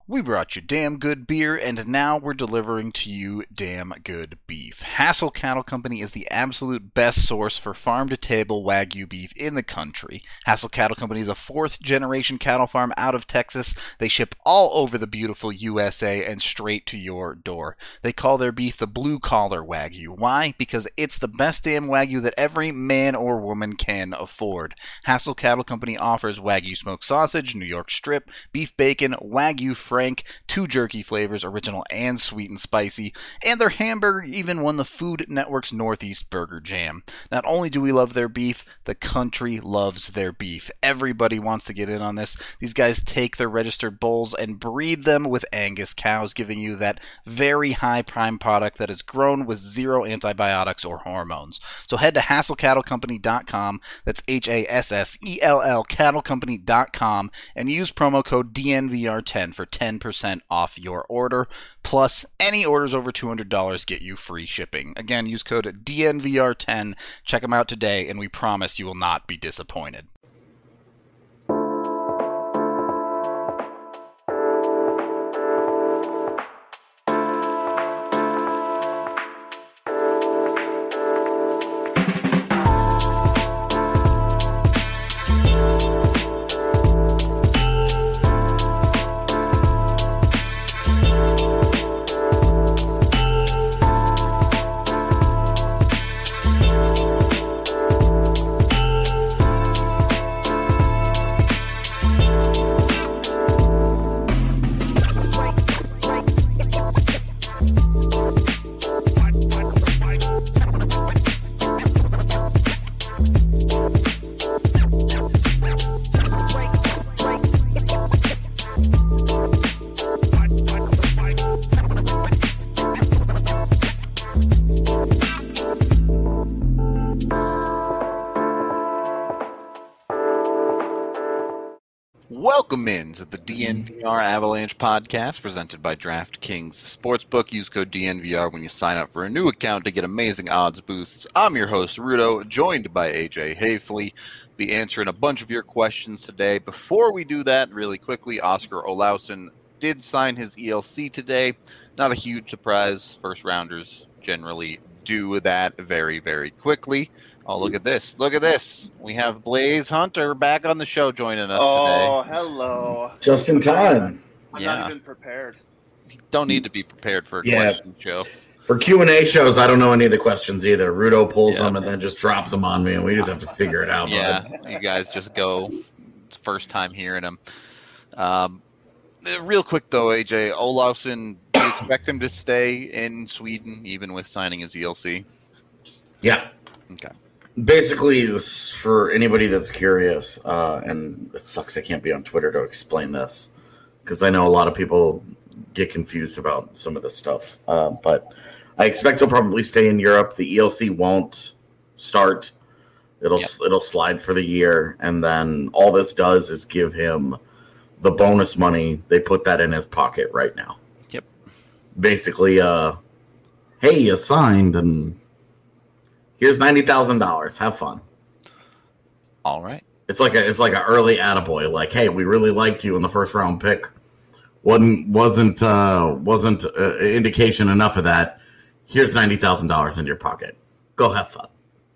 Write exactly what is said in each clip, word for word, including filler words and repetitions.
We brought you damn good beer, and now we're delivering to you damn good beef. Hassel Cattle Company is the absolute best source for farm-to-table Wagyu beef in the country. Hassel Cattle Company is a fourth-generation cattle farm out of Texas. They ship all over the beautiful U S A and straight to your door. They call their beef the blue-collar Wagyu. Why? Because it's the best damn Wagyu that every man or woman can afford. Hassel Cattle Company offers Wagyu smoked sausage, New York strip, beef bacon, Wagyu Frank, two jerky flavors, original and sweet and spicy, and their hamburger even won the Food Network's Northeast Burger Jam. Not only do we love their beef, the country loves their beef. Everybody wants to get in on this. These guys take their registered bulls and breed them with Angus cows, giving you that very high prime product that is grown with zero antibiotics or hormones. So head to hassel cattle company dot com, that's H A S S E L L cattle company dot com, and use promo code D N V R ten for ten percent off your order. Plus, any orders over two hundred dollars get you free shipping. Again, use code D N V R ten. Check them out today, and we promise you will not be disappointed. Welcome into the D N V R Avalanche podcast presented by DraftKings Sportsbook. Use code D N V R when you sign up for a new account to get amazing odds boosts. I'm your host, Rudo, joined by A J Hafley. Be answering a bunch of your questions today. Before we do that, really quickly, Oscar Olausson did sign his E L C today. Not a huge surprise. First rounders generally do that very, very quickly. Oh, look at this. Look at this. We have Blaze Hunter back on the show joining us oh, today. Oh, hello. Just in time. I'm yeah. not even prepared. You don't need to be prepared for a yeah. question show. For Q and A shows, I don't know any of the questions either. Rudo pulls yeah. them and then just drops them on me, and we just have to figure it out. Yeah, bud. You guys just go. It's first time hearing them. Um, real quick, though, A J, Olausson, do you expect him to stay in Sweden, even with signing his E L C? Yeah. Okay. Basically, this, for anybody that's curious, uh, and it sucks I can't be on Twitter to explain this, because I know a lot of people get confused about some of this stuff. Uh, but I expect he'll probably stay in Europe. The E L C won't start. It'll yep. it'll slide for the year, and then all this does is give him the bonus money. They put that in his pocket right now. Yep. Basically, uh, hey, you signed, and here's ninety thousand dollars. Have fun. All right. It's like a it's like an early attaboy. Like, hey, we really liked you in the first round pick. wasn't wasn't uh, wasn't uh, indication enough of that. Here's ninety thousand dollars in your pocket. Go have fun.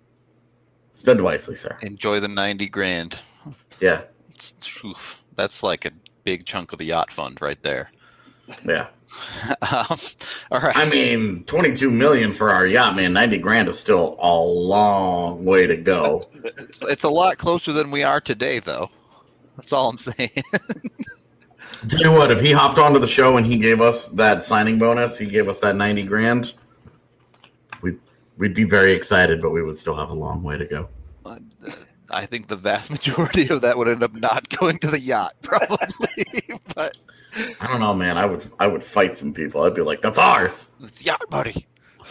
Spend wisely, sir. Enjoy the ninety grand. Yeah, it's, oof, that's like a big chunk of the yacht fund right there. Yeah. um, all right. I mean, twenty-two million for our yacht, man. ninety grand is still a long way to go. It's, it's a lot closer than we are today, though. That's all I'm saying. Tell you what, if he hopped onto the show and he gave us that signing bonus, he gave us that ninety grand, we'd, we'd be very excited, but we would still have a long way to go. Uh, I think the vast majority of that would end up not going to the yacht, probably. But I don't know, man. I would I would fight some people. I'd be like, that's ours. It's yacht buddy.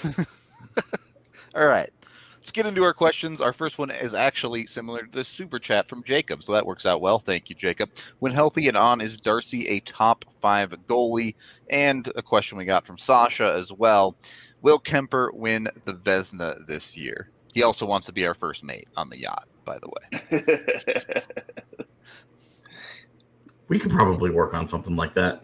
All right. Let's get into our questions. Our first one is actually similar to the super chat from Jacob, so that works out well. Thank you, Jacob. When healthy and on, is Darcy a top five goalie? And a question we got from Sasha as well. Will Kemper win the Vezina this year? He also wants to be our first mate on the yacht, by the way. We could probably work on something like that.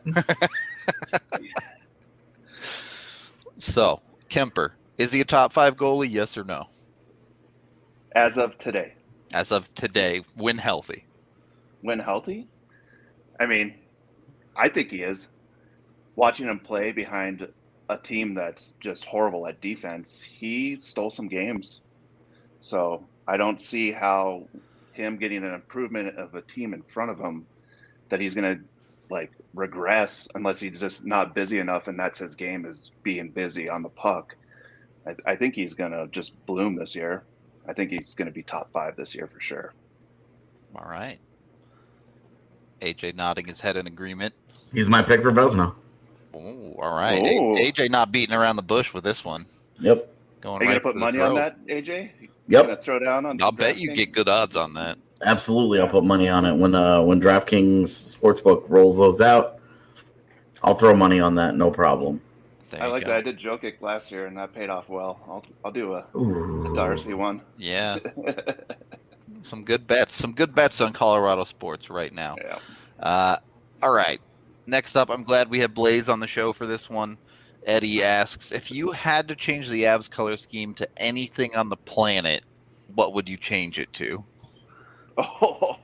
So, Kemper, is he a top five goalie? Yes or no? As of today. As of today, when healthy. When healthy? I mean, I think he is. Watching him play behind a team that's just horrible at defense, he stole some games. So I don't see how him getting an improvement of a team in front of him that he's going to like regress unless he's just not busy enough, and that's his game, is being busy on the puck. I, I think he's going to just bloom this year. I think he's going to be top five this year for sure. All right. A J nodding his head in agreement. He's my pick for Vezina. Oh, all right. Ooh. A J not beating around the bush with this one. Yep. Going Are you right going to put for the money throat. on that, A J? You Yep. going to throw down on I'll bet you DraftKings? get good odds on that. Absolutely, I'll put money on it when uh, when DraftKings Sportsbook rolls those out. I'll throw money on that, no problem. There I you like go. that. I did Jokic last year, and that paid off well. I'll I'll do a, Ooh. a Darcy one. Yeah, some good bets. Some good bets on Colorado sports right now. Yeah. Uh, all right. Next up, I'm glad we have Blaze on the show for this one. Eddie asks, if you had to change the Avs color scheme to anything on the planet, what would you change it to? Oh,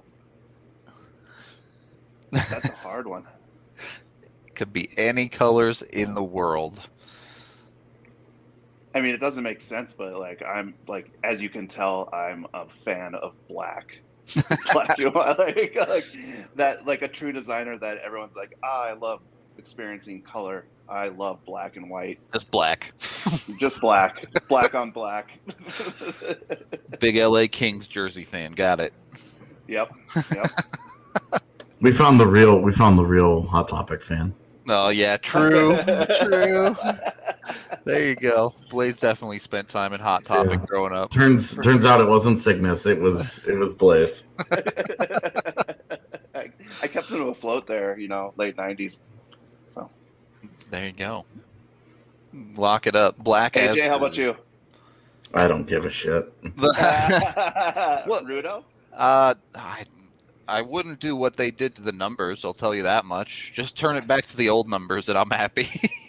that's a hard one. It could be any colors in the world. I mean, it doesn't make sense, but like I'm like, as you can tell, I'm a fan of black. Black, you know, like, like that, like a true designer that everyone's like, ah, I love experiencing color. I love black and white. Just black. Just black, black on black. Big L A Kings jersey fan. Got it. Yep, yep. We found the real. We found the real Hot Topic fan. Oh, yeah. True. True. There you go. Blaze definitely spent time in Hot Topic Yeah. growing up. Turns turns out it wasn't Cygnus. It was it was Blaze. I, I kept him afloat there, you know, late nineties. So, There you go. Lock it up. Black A as J, how about you? I don't give a shit. What? Rudo? uh, I, I wouldn't do what they did to the numbers. I'll tell you that much. Just turn it back to the old numbers, and I'm happy.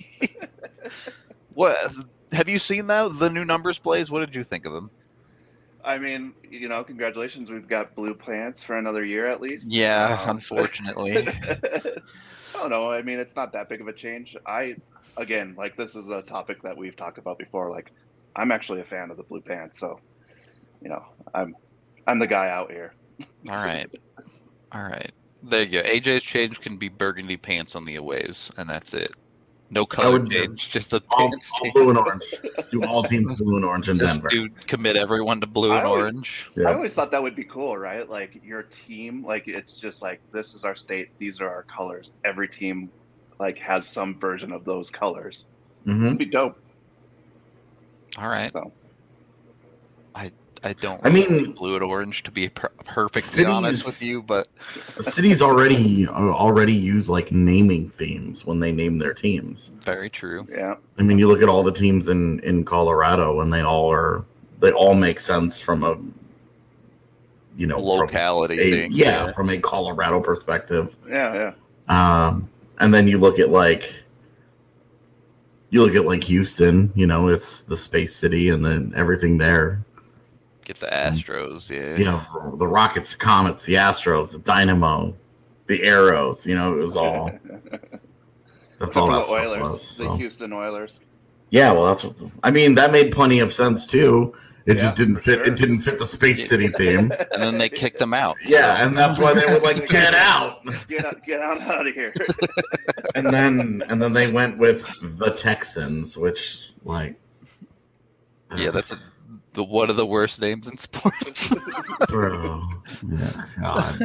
What have you seen that the new numbers, Blaze? What did you think of them? I mean, you know, congratulations. We've got blue pants for another year at least. Yeah, Um, unfortunately. I don't know. I mean, it's not that big of a change. I, again, like this is a topic that we've talked about before. Like, I'm actually a fan of the blue pants, so you know, I'm, I'm the guy out here. All right, all right. There you go. A J's change can be burgundy pants on the aways, and that's it. No color would- change, just a All, pants all change. blue and orange. Do all teams blue and orange in Just Denver. do commit everyone to blue I and always- orange. I Yeah. always thought that would be cool, right? Like your team, like it's just like this is our state, these are our colors. Every team, like, has some version of those colors. hmm It'd be dope. All right. So. I I don't. I mean- like blue and orange to be per- perfectly Cities- honest with you, but Cities already uh, already use like naming themes when they name their teams. very true. Yeah. I mean, you look at all the teams in, in Colorado, and they all are they all make sense from a you know from Locality a, thing. yeah, from a Colorado perspective. Yeah. Yeah. Um, and then you look at like you look at like Houston. You know, it's the space city, and then everything there. Get the Astros. Yeah. You know, the Rockets, the Comets, the Astros, the Dynamo, the Arrows. You know, it was all. That's all Except for that the stuff Oilers, was. the so. Houston Oilers. Yeah, well, that's what. I mean, that made plenty of sense too. It Yeah, just didn't for fit. sure. It didn't fit the Space City theme. And then they kicked them out. Yeah, and that's why they were like, "Get out!" Get out! Get out, out of here! And then, and then they went with the Texans, which, like, Yeah, that's a, the one of the worst names in sports. bro. Yeah, God.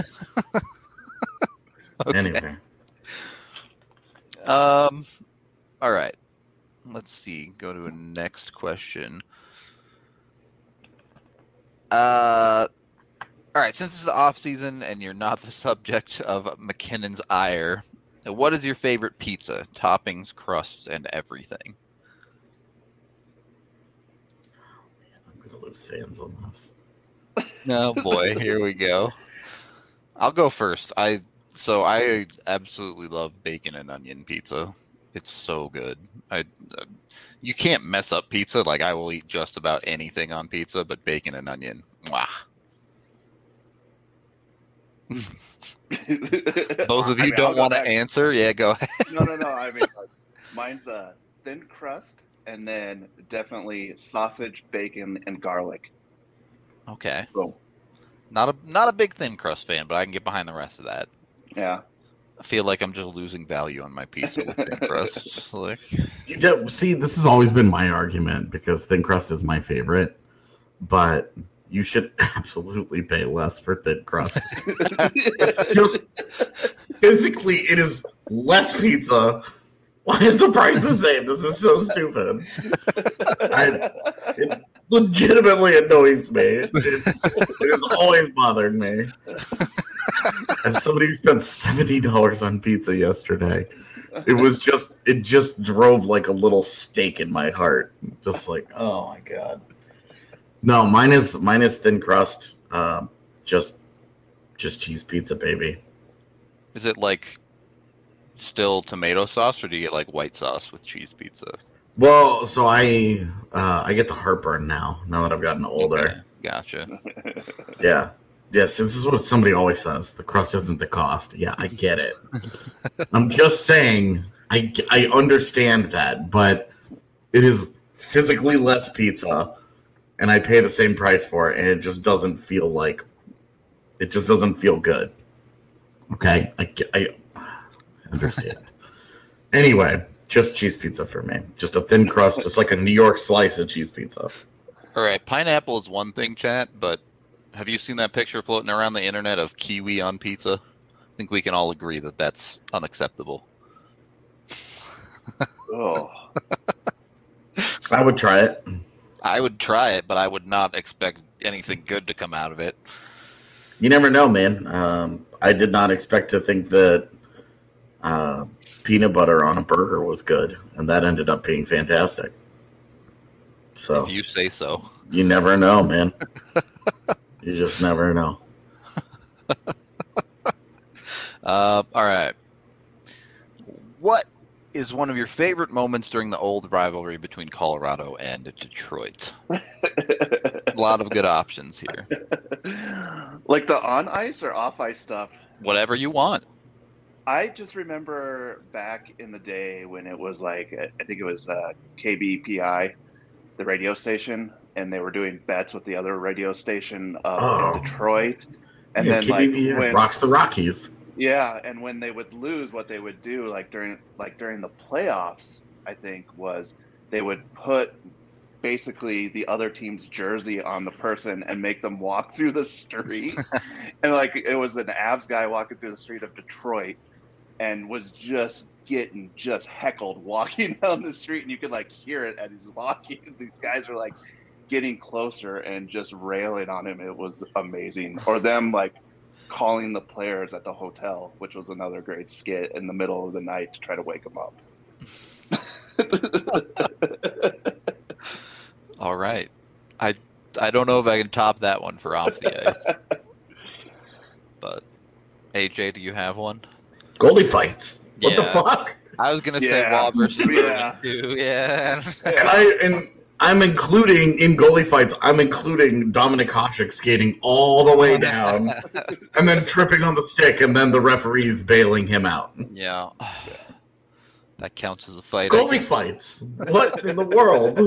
Okay. Anyway, Um, all right. Let's see. Go to a next question. Uh, all right. Since it's the off season and you're not the subject of McKinnon's ire, what is your favorite pizza? Toppings, crusts, and everything. I'm gonna lose fans on this. Oh boy, here we go. I'll go first. I So I absolutely love bacon and onion pizza. It's so good. I uh, you can't mess up pizza. Like I will eat just about anything on pizza, but bacon and onion, mwah. Both of you I mean, don't I'll go want to back- answer? Yeah, go ahead. No, no, no. I mean, like, mine's a thin crust, and then definitely sausage, bacon, and garlic. Okay. Boom. Not a not a big thin crust fan, but I can get behind the rest of that. Yeah. I feel like I'm just losing value on my pizza with thin crust. Like, You don't, see, this has always been my argument because thin crust is my favorite, but you should absolutely pay less for thin crust. It's just physically, it is less pizza. Why is the price the same? This is so stupid. I, it legitimately annoys me. It, it has always bothered me. As somebody who spent seventy dollars on pizza yesterday, it was just, it just drove like a little stake in my heart. Just like, oh my God. No, mine is, mine is thin crust. Um, just, just cheese pizza, baby. is it like still tomato sauce, or do you get like white sauce with cheese pizza? Well, so I, uh, I get the heartburn now, now that I've gotten older. Okay, gotcha. Yeah. Yes, this is what somebody always says. The crust isn't the cost. Yeah, I get it. I'm just saying, I, I understand that, but it is physically less pizza, and I pay the same price for it, and it just doesn't feel like, it just doesn't feel good. Okay? I, I understand. Anyway, just cheese pizza for me. Just a thin crust, just like a New York slice of cheese pizza. All right, pineapple is one thing, chat, but have you seen that picture floating around the internet of kiwi on pizza? I think we can all agree that that's unacceptable. Oh. I would try it. I would try it, but I would not expect anything good to come out of it. You never know, man. Um, I did not expect to think that uh, peanut butter on a burger was good, and that ended up being fantastic. So If you say so. you never know, man. You just never know. Uh, all right. What is one of your favorite moments during the old rivalry between Colorado and Detroit? A lot of good options here. Like the on ice or off ice stuff. Whatever you want. I just remember back in the day when it was like, I think it was uh, K B P I, the radio station, and they were doing bets with the other radio station up Oh. in Detroit. And Yeah, then like K B B when, rocks the Rockies. yeah, and when they would lose, what they would do, like during like during the playoffs, I think was they would put basically the other team's jersey on the person and make them walk through the street. And like it was an Avs guy walking through the street of Detroit and was just getting just heckled walking down the street, and you could like hear it as he's walking. These guys were like getting closer and just railing on him. It was amazing. Or them like calling the players at the hotel, which was another great skit in the middle of the night to try to wake them up. All right. I I don't know if I can top that one for off the ice. But A J, do you have one? Goalie fights. What the Yeah. fuck? I was gonna say Yeah. Wall versus Yeah. Bergen too. Yeah. And I and I'm including in goalie fights. I'm including Dominic Hasek skating all the way down and then tripping on the stick, and then the referees bailing him out. Yeah. That counts as a fight. Goalie fights. What in the world?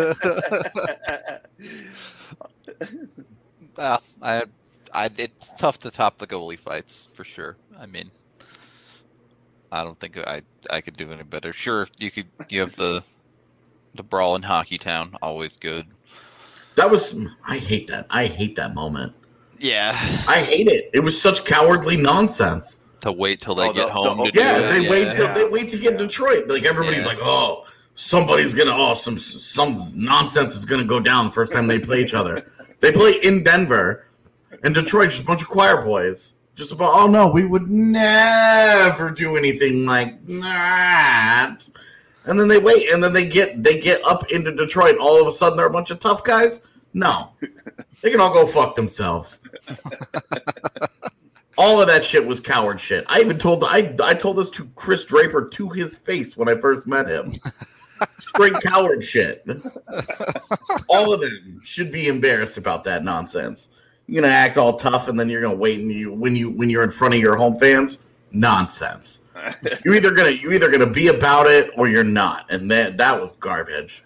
Well, I, I, it's tough to top the goalie fights for sure. I mean, I don't think I, I could do any better. Sure, you could. You have the, the brawl in Hockey Town, always good. That was. I hate that. I hate that moment. Yeah. I hate it. It was such cowardly nonsense. To wait till they Oh, get the- home the- to Yeah, do it. they wait yeah. till they wait to get in Detroit. Like everybody's Yeah. like, oh, somebody's gonna, oh, some some nonsense is gonna go down the first time they play each other. They play in Denver, and Detroit's just a bunch of choir boys. Just about, oh no, we would never do anything like that. And then they wait, and then they get they get up into Detroit. All of a sudden, they're a bunch of tough guys. No, they can all go fuck themselves. All of that shit was coward shit. I even told I I told this to Chris Draper to his face when I first met him. Straight coward shit. All of them should be embarrassed about that nonsense. You're gonna act all tough, and then you're gonna wait, and you when you when you're in front of your home fans, nonsense. You're either gonna you're either gonna be about it or you're not, and that that was garbage.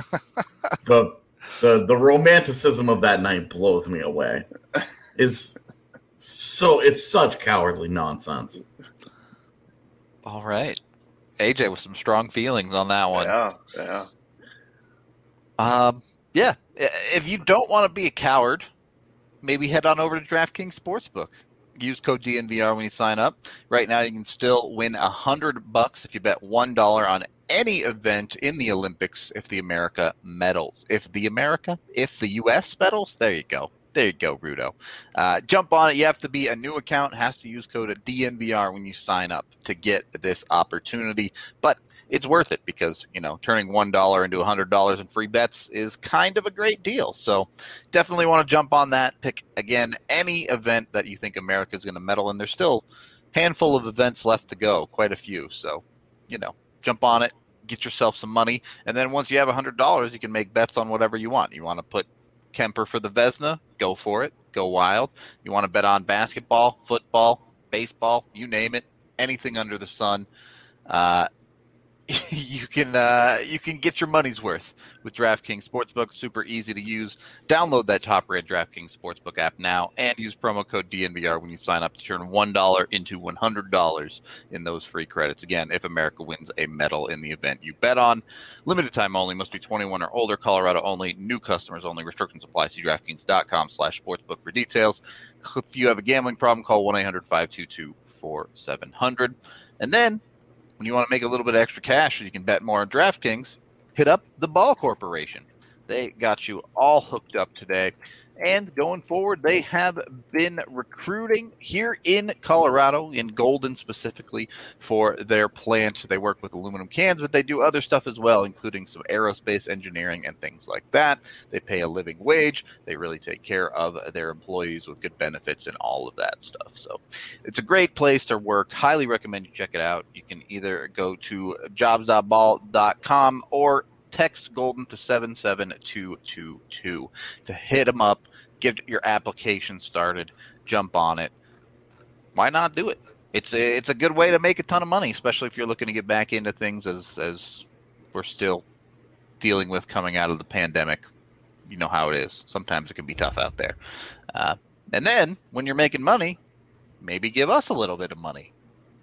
the the the romanticism of that night blows me away. Is so it's such cowardly nonsense. All right. A J with some strong feelings on that one. Yeah, yeah. Um, yeah. If you don't want to be a coward, maybe head on over to DraftKings Sportsbook. Use code D N V R when you sign up. Right now, you can still win a hundred bucks if you bet one dollar on any event in the Olympics if the America medals. If the America, if the U S medals, there you go. There you go, Rudo. Uh, jump on it. You have to be a new account. Has to use code D N V R when you sign up to get this opportunity. But it's worth it because, you know, turning one dollar into one hundred dollars in free bets is kind of a great deal. So definitely want to jump on that. Pick, again, any event that you think America is going to medal in. There's still a handful of events left to go, quite a few. So, you know, jump on it, get yourself some money. And then once you have one hundred dollars, you can make bets on whatever you want. You want to put Kemper for the Vezina, go for it. Go wild. You want to bet on basketball, football, baseball, you name it, anything under the sun. Uh, you can uh, you can get your money's worth with DraftKings Sportsbook. Super easy to use. Download that top-rated DraftKings Sportsbook app now and use promo code D N V R when you sign up to turn one dollar into one hundred dollars in those free credits. Again, if America wins a medal in the event you bet on. Limited time only. Must be twenty-one or older. Colorado only. New customers only. Restrictions apply. See DraftKings.com slash sportsbook for details. If you have a gambling problem, call one eight hundred five two two four seven zero zero. And then, when you want to make a little bit of extra cash so you can bet more on DraftKings, hit up the Ball Corporation. They got you all hooked up today. And going forward, they have been recruiting here in Colorado, in Golden specifically, for their plant. They work with aluminum cans, but they do other stuff as well, including some aerospace engineering and things like that. They pay a living wage. They really take care of their employees with good benefits and all of that stuff. So it's a great place to work. Highly recommend you check it out. You can either go to jobs dot ball dot com or text Golden to seven seven two two two to hit them up, get your application started, jump on it. Why not do it? It's a, it's a good way to make a ton of money, especially if you're looking to get back into things as, as we're still dealing with coming out of the pandemic. You know how it is. Sometimes it can be tough out there. Uh, and then when you're making money, maybe give us a little bit of money.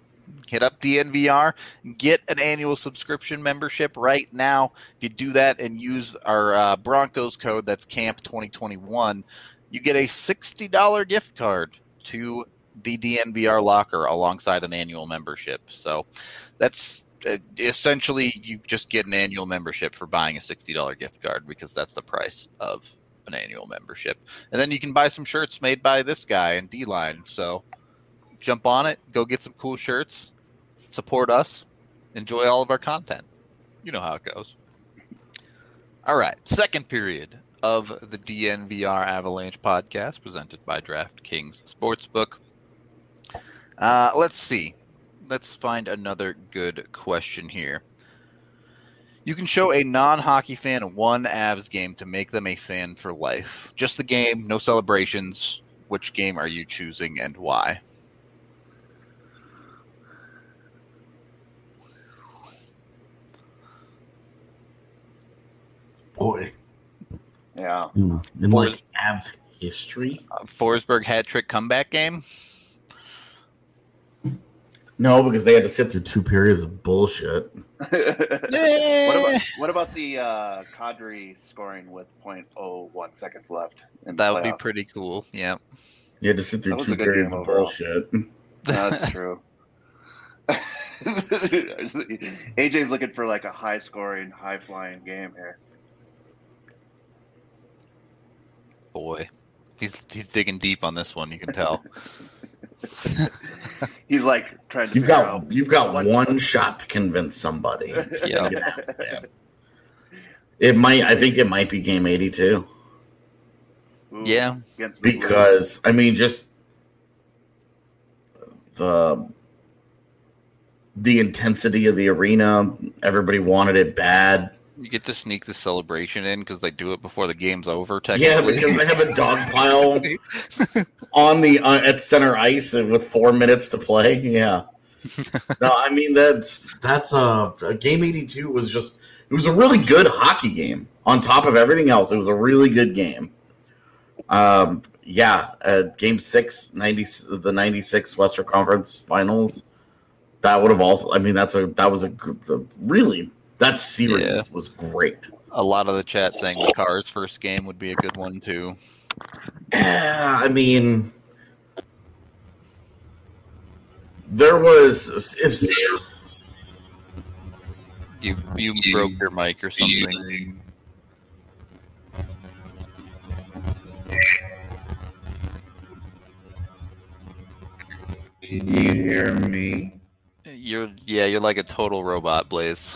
Hit up D N V R, get an annual subscription membership right now. If you do that and use our uh, Broncos code, that's Camp twenty twenty-one, you get a sixty dollars gift card to the D N V R locker alongside an annual membership. So that's uh, essentially you just get an annual membership for buying a sixty dollars gift card because that's the price of an annual membership. And then you can buy some shirts made by this guy and D-Line. So jump on it, go get some cool shirts, support us, enjoy all of our content. You know how it goes. All right, second period of the D N V R Avalanche podcast presented by DraftKings Sportsbook. Uh, let's see. Let's find another good question here. You can show a non-hockey fan one Avs game to make them a fan for life. Just the game, no celebrations. Which game are you choosing and why? Boy. Yeah. In like Avs history? Uh, Forsberg hat trick comeback game? No, because they had to sit through two periods of bullshit. What about what about the uh, Kadri scoring with point oh one seconds left? In the That would be playoffs? pretty cool. Yeah. You had to sit through That was two a good periods game of overall. bullshit. That's true. A J's looking for like a high scoring, high flying game here. Boy. He's he's digging deep on this one, you can tell. He's like trying to You've figure got out you've got what- one shot to convince somebody. Yeah. It might. I think it might be game eighty-two Ooh, Yeah. against the Blues. because I mean, just the the intensity of the arena. Everybody wanted it bad. You get to sneak the celebration in because they do it before the game's over. Yeah, Technically, because they have a dog pile on the uh, at center ice with four minutes to play. Yeah. No, I mean that's that's a, a game eighty-two was just it was a really good hockey game. On top of everything else, it was a really good game. Um, yeah, uh, game six, ninety the ninety-six Western Conference Finals. That would have also. I mean, that's a that was a, a really. That series Yeah. was great. a lot of the chat saying the Cars' first game would be a good one too. Yeah, I mean, there was if You you broke your mic or something. Can you hear me? You're yeah, you're like a total robot, Blaze.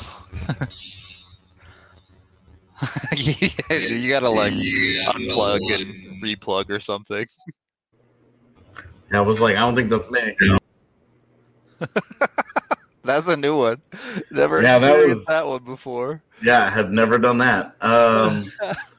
Yeah, you gotta like unplug and replug or something. I was like, I don't think that's me. That's a new one. Never Yeah, that experienced was- that one before. Yeah, I have never done that. Um,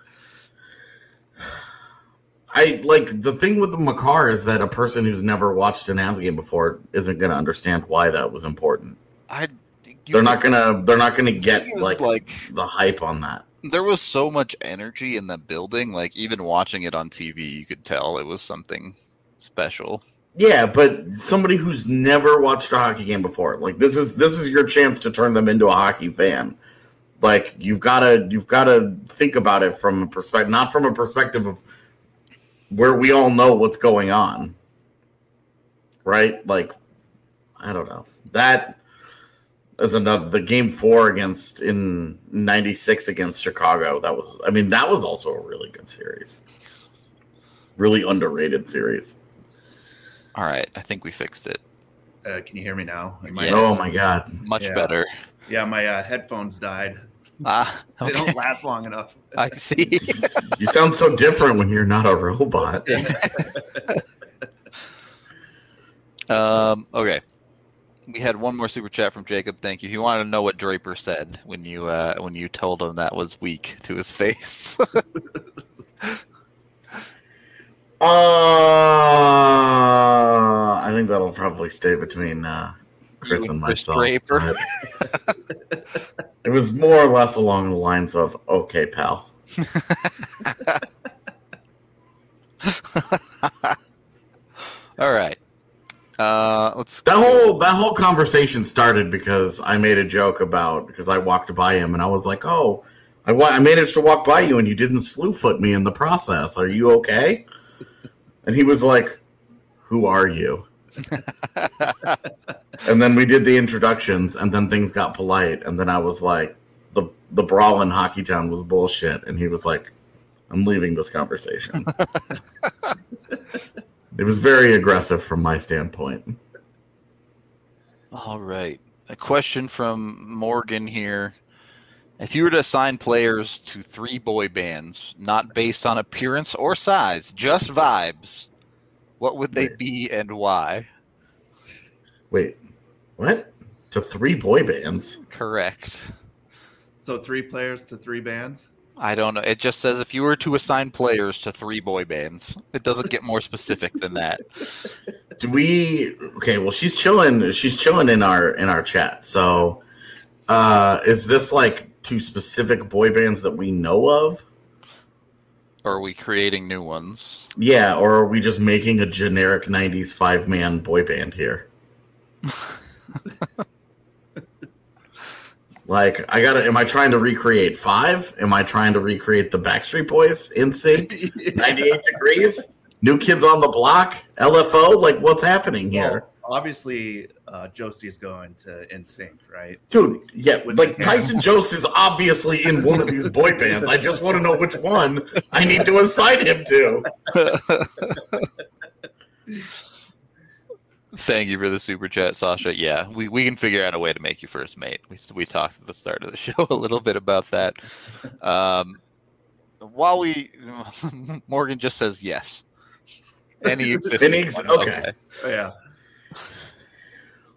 I like the thing with the Makar is that a person who's never watched an Avs game before isn't going to understand why that was important. I you They're not gonna. They're not gonna get It was like, like- the hype on that. there was so much energy in the building. Like even watching it on T V, you could tell it was something special. Yeah, but somebody who's never watched a hockey game before, like this is this is your chance to turn them into a hockey fan. Like you've got to you've got to think about it from a perspective, not from a perspective of where we all know what's going on, right? Like I don't know that is another the game four against in ninety-six against Chicago. That was I mean that was also a really good series, really underrated series. All right, I think we fixed it. Uh, can you hear me now? Am I- Yeah. Oh my god. Much Yeah. better. Yeah, my uh, headphones died. Ah, They okay. don't last long enough. I see. You sound so different when you're not a robot. um. Okay. We had one more super chat from Jacob. Thank you. He wanted to know what Draper said when you uh, when you told him that was weak to his face. Uh, I think that'll probably stay between uh, Chris You and and Chris myself. Draper. But it was more or less along the lines of, okay, pal. All right. Uh, let's. That whole that whole conversation started because I made a joke about because I walked by him and I was like, "Oh, I wa- I managed to walk by you and you didn't slew foot me in the process. Are you okay?" And he was like, "Who are you?" And then we did the introductions, and then things got polite, and then I was like, "the The brawl in Hockey Town was bullshit," and he was like, "I'm leaving this conversation." It was very aggressive from my standpoint. All right. A question from Morgan here. If you were to assign players to three boy bands, not based on appearance or size, just vibes, what would they be and why? Wait, what? To three boy bands? Correct. So three players to three bands. I don't know. It just says if you were to assign players to three boy bands. It doesn't get more specific than that. Do we? Okay, well, she's chilling. She's chilling in our in our chat. So, uh, is this like two specific boy bands that we know of? Or are we creating new ones? Yeah, or are we just making a generic nineties five man boy band here? Like, I gotta. Am I trying to recreate Five? Am I trying to recreate the Backstreet Boys? In Sync, ninety-eight Degrees, New Kids on the Block, L F O. Like, what's happening here? Well, obviously, uh, Jostie's going to N Sync, right? Dude, yeah, With like the- Tyson Jost is obviously in one of these boy bands. I just want to know which one I need to assign him to. Thank you for the super chat, Sasha. Yeah, we, we can figure out a way to make you first mate. We, we talked at the start of the show a little bit about that. Um, while we, Morgan just says yes. Any existing Any ex- one, okay. Oh, yeah.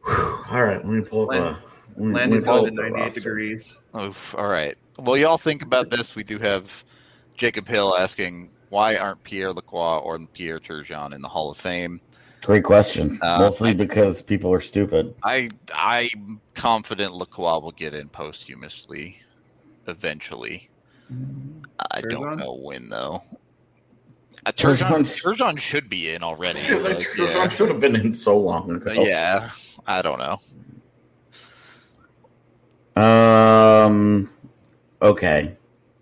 All right, let me pull up. Land- a, let me, let Land me is pull going up to the ninety-eight roster. degrees. Oof, all right. Well, y'all think about this. We do have Jacob Hill asking, why aren't Pierre Lacroix or Pierre Turgeon in the Hall of Fame? Great question. Uh, Mostly I- because people are stupid. I I'm confident Lacroix will get in posthumously, eventually. I don't Turgeon? know when though. Uh, Turgeon- Turgeon, Turgeon should be in already. Because like, Turgeon yeah. should have been in so long ago. yeah, I don't know. Um. Okay.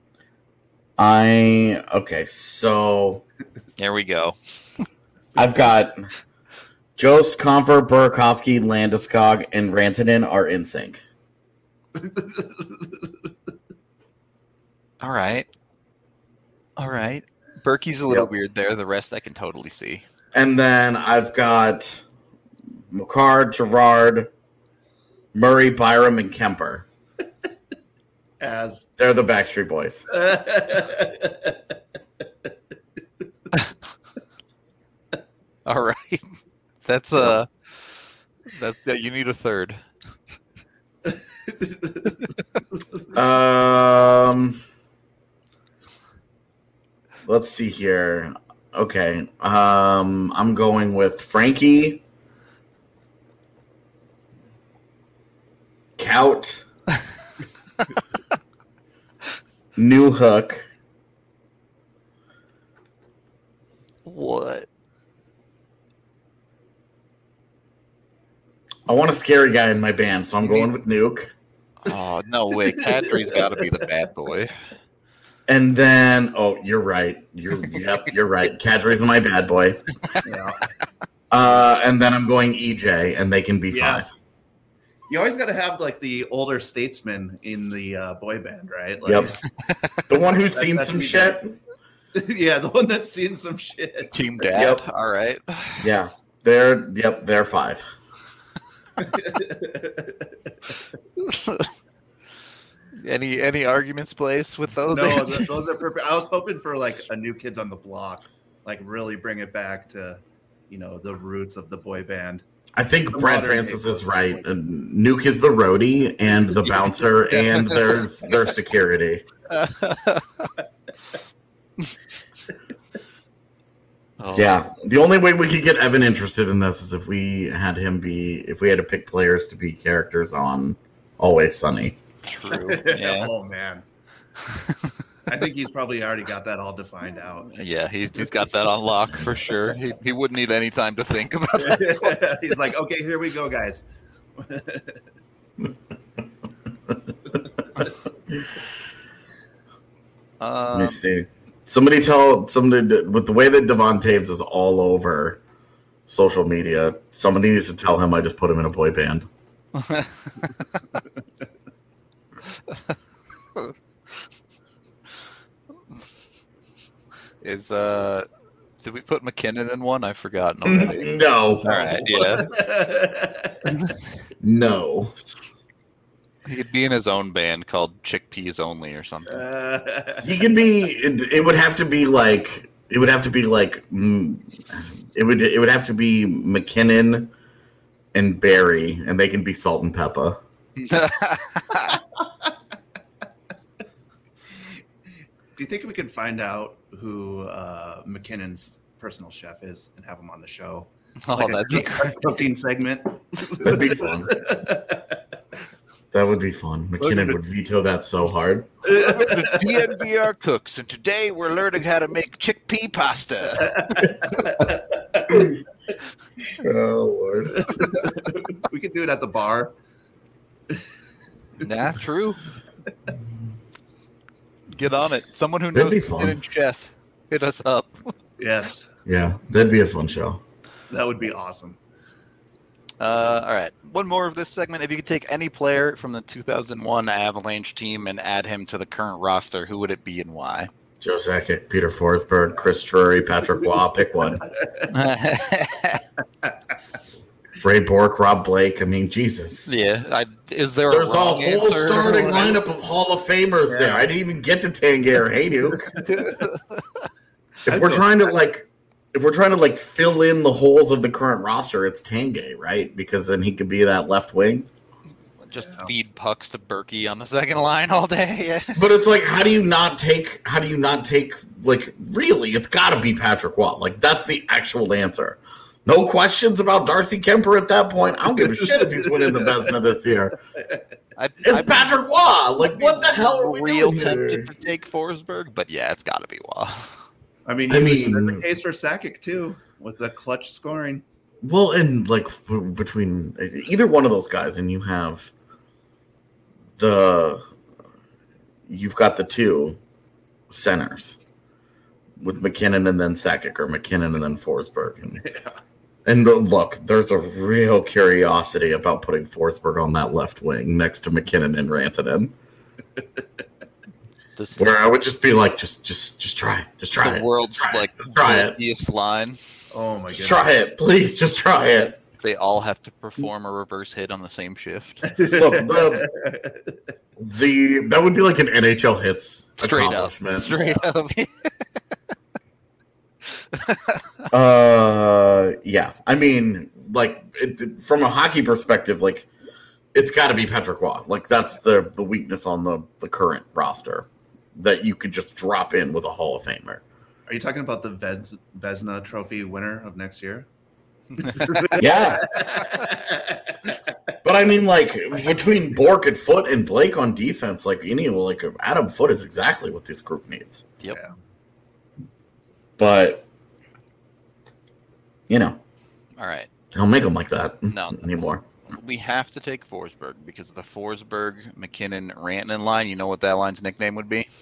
I okay. So Here we go. I've got Jost, Comfort, Burakovsky, Landeskog, and Rantanen are in sync. All right, all right. Berkey's a little Yep. weird there. The rest I can totally see. And then I've got McCarr, Gerard, Murray, Byram, and Kemper. As They're the Backstreet Boys. All right, that's uh, that's yeah, you need a third. Um, let's see here. Okay, um, I'm going with Frankie, Cout, New Hook, What? I want a scary guy in my band, so I'm going with Nuke. Oh no way! Kadri's got to be the bad boy. And then, oh, you're right. You're yep, you're right. Kadri's my bad boy. yeah. Uh, and then I'm going E J, and they can be Yes. You always got to have like the older statesman in the uh, boy band, right? Like, Yep. five. The one who's That- seen that's some me. shit. yeah, the one that's seen some shit. Team dad. Yep. All right. Yeah, they're yep, they're five. any any arguments placed with those? no, answers? th- those are perfect. I was hoping for like a New Kids on the Block, like really bring it back to, you know, the roots of the boy band. I think The Brad modern Francis day is boy right. band. Nuke is the roadie and the bouncer, and there's their security. Oh, Yeah, the only way we could get Evan interested in this is if we had him be, if we had to pick players to be characters on Always Sunny. true. Yeah. oh man. I think he's probably already got that all defined out. Yeah, he's, he's got that on lock for sure. He, he wouldn't need any time to think about that. He's like, okay, here we go, guys. Let me Um, see. Somebody tell somebody with the way that Devon Taves is all over social media. Somebody needs to tell him I just put him in a boy band. is uh, did we put McKinnon in one? I've forgotten already. No, All right, yeah, no. he could be in his own band called Chickpeas Only or something. He could be. It, it would have to be like. It would have to be like. mm, It would. It would have to be McKinnon and Barry, and they can be Salt and Pepper. Do you think we could find out who uh, McKinnon's personal chef is and have him on the show? Oh, Like a that'd be cook- great. cooking segment. That'd be fun. That would be fun. McKinnon would veto that so hard. The D N V R Cooks, and today we're learning how to make chickpea pasta. Oh Lord. We could do it at the bar. Nah, true. Get on it. Someone who That'd knows be fun. hidden chef, hit us up. Yes, Yeah, that'd be a fun show. that would be awesome. Uh, all right, one more of this segment. If you could take any player from the two thousand one Avalanche team and add him to the current roster, who would it be and why? Joe Sakic, Peter Forsberg, Chris Drury, Patrick Waugh. Pick one. Ray Bork, Rob Blake. I mean, Jesus. yeah, I, is there There's a a wrong whole answer? starting lineup of Hall of Famers Yeah. there. I didn't even get to Tangier. Hey, Duke. If I'd we're go- trying to like, if we're trying to like fill in the holes of the current roster, it's Tanguay, right? Because then he could be that left wing. Just Yeah. feed pucks to Berkey on the second line all day. But it's like, how do you not take? How do you not take? Like, really, it's got to be Patrick Watt. Like, that's the actual answer. No questions about Darcy Kemper at that point. I don't give a shit if he's winning the Vezina this year. I, It's I'd Patrick Watt. Like, what the hell are we real doing tempted here? to take Forsberg, but yeah, it's got to be Watt. I mean, I I mean- mean, the case for Sakic too, with the clutch scoring. Well, and like f- between either one of those guys, and you have the you've got the two centers with McKinnon and then Sakic, or McKinnon and then Forsberg, and Yeah. and look, there's a real curiosity about putting Forsberg on that left wing next to McKinnon and Rantanen, This, where I would just be like, just just just try it, just try the it, world's just try like it, just try it, bulkiest line. Oh my just goodness. try it, please, just try it. They all have to perform a reverse hit on the same shift. Look, the, the that would be like an N H L hits Straight up. accomplishment. Straight up. Uh, yeah. I mean, like it, from a hockey perspective, like it's got to be Patrick Waugh. Like that's the the weakness on the the current roster that you could just drop in with a Hall of Famer. Are you talking about the Vez, Vezina Trophy winner of next year? Yeah, but I mean, like between Bork and Foot and Blake on defense, like any like Adam Foote is exactly what this group needs. Yep. Yeah. But you know, All right. I don't make them like that No. anymore. We have to take Forsberg because of the Forsberg, McKinnon, Rantanen line. You know what that line's nickname would be?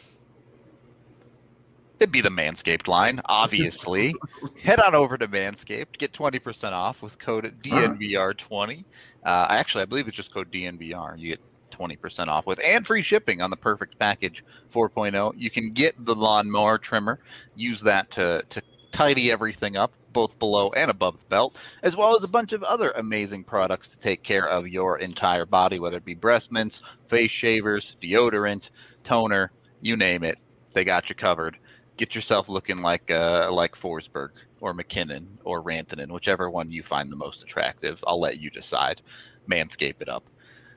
It'd be the Manscaped line, obviously. Head on over to Manscaped. Get twenty percent off with code D N V R twenty. Uh, actually, I believe it's just code D N V R. You get twenty percent off with and free shipping on the Perfect Package four point oh. You can get the lawnmower trimmer. Use that to, to tidy everything up, both below and above the belt, as well as a bunch of other amazing products to take care of your entire body, whether it be breast mints, face shavers, deodorant, toner, you name it. They got you covered. Get yourself looking like uh, like Forsberg or McKinnon or Rantanen, whichever one you find the most attractive. I'll let you decide. Manscape it up.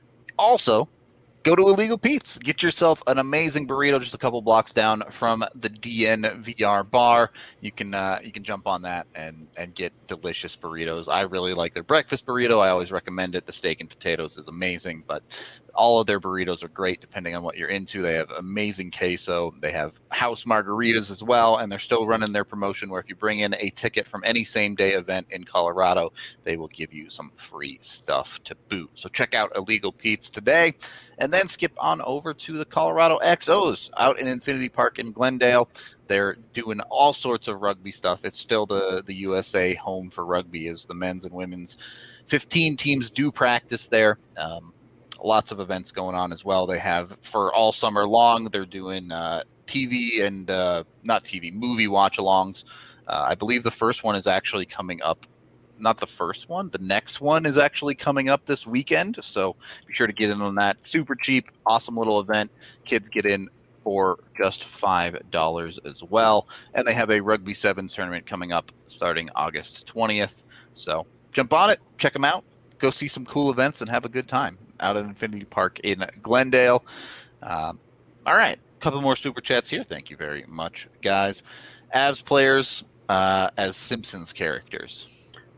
Also, go to Illegal Pete's. Get yourself an amazing burrito just a couple blocks down from the D N V R bar. You can uh, you can jump on that and, and get delicious burritos. I really like their breakfast burrito. I always recommend it. The steak and potatoes is amazing, but all of their burritos are great depending on what you're into. They have amazing queso. They have house margaritas as well, and they're still running their promotion where if you bring in a ticket from any same-day event in Colorado, they will give you some free stuff to boot. So check out Illegal Pete's today, and then skip on over to the Colorado X Os out in Infinity Park in Glendale. They're doing all sorts of rugby stuff. It's still the, the U S A home for rugby, as the men's and women's fifteen teams do practice there. Um, lots of events going on as well. They have for all summer long, they're doing uh, T V and uh, not T V, movie watch-alongs. Uh, I believe the first one is actually coming up. Not the first one. The next one is actually coming up this weekend. So be sure to get in on that. Super cheap, awesome little event. Kids get in for just five dollars as well. And they have a Rugby Sevens tournament coming up starting August twentieth. So jump on it, check them out, go see some cool events, and have a good time out at Infinity Park in Glendale. Um, all right, a couple more super chats here. Thank you very much, guys. Avs players uh, as Simpsons characters.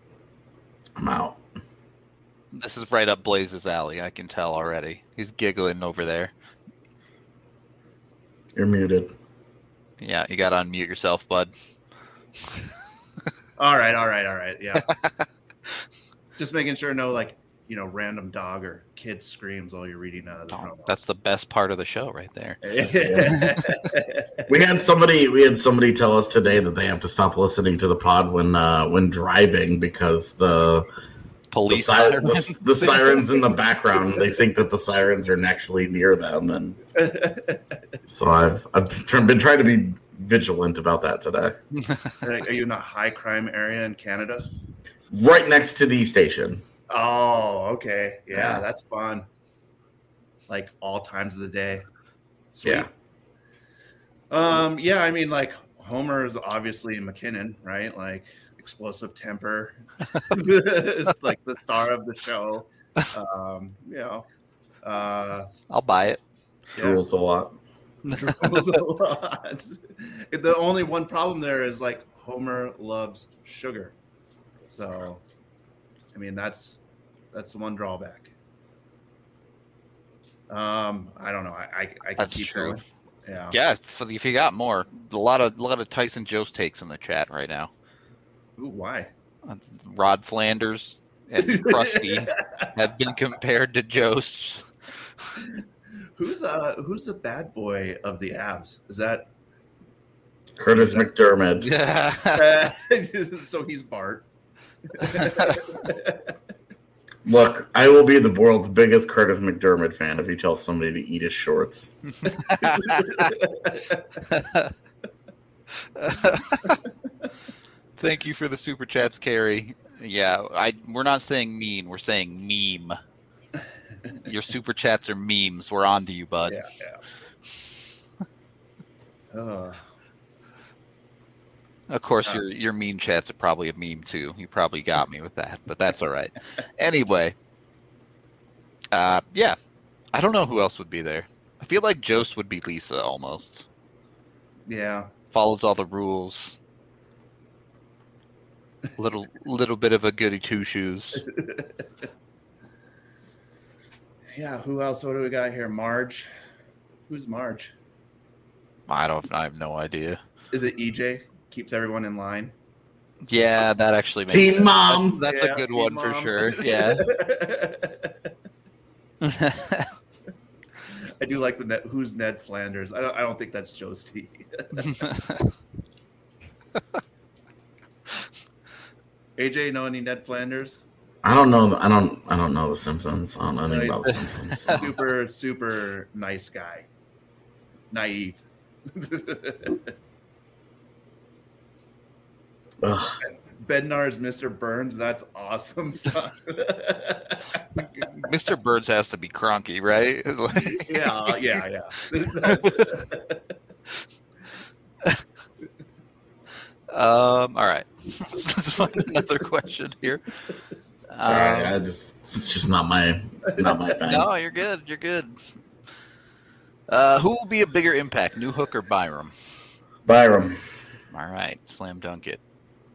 I'm out. This is right up Blaze's alley. I can tell already. He's giggling over there. You're muted. Yeah, you got to unmute yourself, bud. All right, all right, all right. Yeah. Just making sure no, like, you know, random dog or kid screams while you're reading uh, the Oh, promos. that's the best part of the show right there. We had somebody we had somebody tell us today that they have to stop listening to the pod when uh, when driving because the the, Police si- sirens. the, the sirens in the background, they think that the sirens are actually near them, and so I've I've tr- been trying to be vigilant about that today. Are you in a high crime area in Canada? Right next to the station. Oh, okay. Yeah, Yeah. that's fun. Like all times of the day. Sweet. Yeah. Um, yeah, I mean, like Homer is obviously McKinnon, right? Like explosive temper, like the star of the show. Um, you know, uh, I'll buy it. Drools a lot. drools a lot. The only one problem there is like Homer loves sugar, so I mean that's that's the one drawback. Um, I don't know. I I, I can That's keep true. going. Yeah. Yeah, if if you got more, a lot of a lot of Tyson Jost takes in the chat right now. Ooh, why? Uh, Rod Flanders and Krusty have been compared to Jost. Who's uh who's the bad boy of the Avs? Is that Curtis McDermott. Yeah. uh, so he's Bart. Look, I will be the world's biggest Curtis McDermott fan if he tells somebody to eat his shorts. Thank you for the super chats, Carrie. Yeah, I we're not saying mean, we're saying meme. Your super chats are memes. We're on to you, bud. Yeah, yeah. Uh, Of course, Uh. your your meme chats are probably a meme too. You probably got me with that, but that's all right. Anyway, uh, yeah, I don't know who else would be there. I feel like Jost would be Lisa almost. yeah. Follows all the rules. Little little bit of a goody two shoes. Yeah, who else? What do we got here? Marge. Who's Marge? I don't. I have no idea. Is it E J? Keeps everyone in line. Yeah, that actually makes Teen sense. Mom. That's Yeah, a good Teen one for Mom. sure. Yeah. I do like the Ned, who's Ned Flanders. I don't. I don't think that's Joesty. A J, know any Ned Flanders? I don't know. I don't. I don't know The Simpsons. I don't know anything Nice. about The Simpsons. Super, super nice guy. Naive. Ugh. Bednar's Mister Burns. That's awesome. son. Mister Birds has to be cronky, right? Like- yeah, yeah, yeah. Um. All right. Let's find another question here. Sorry, Um, I just it's just not my not my thing. no, you're good. You're good. Uh, who will be a bigger impact, New Hook or Byram? Byram. All right, slam dunk it.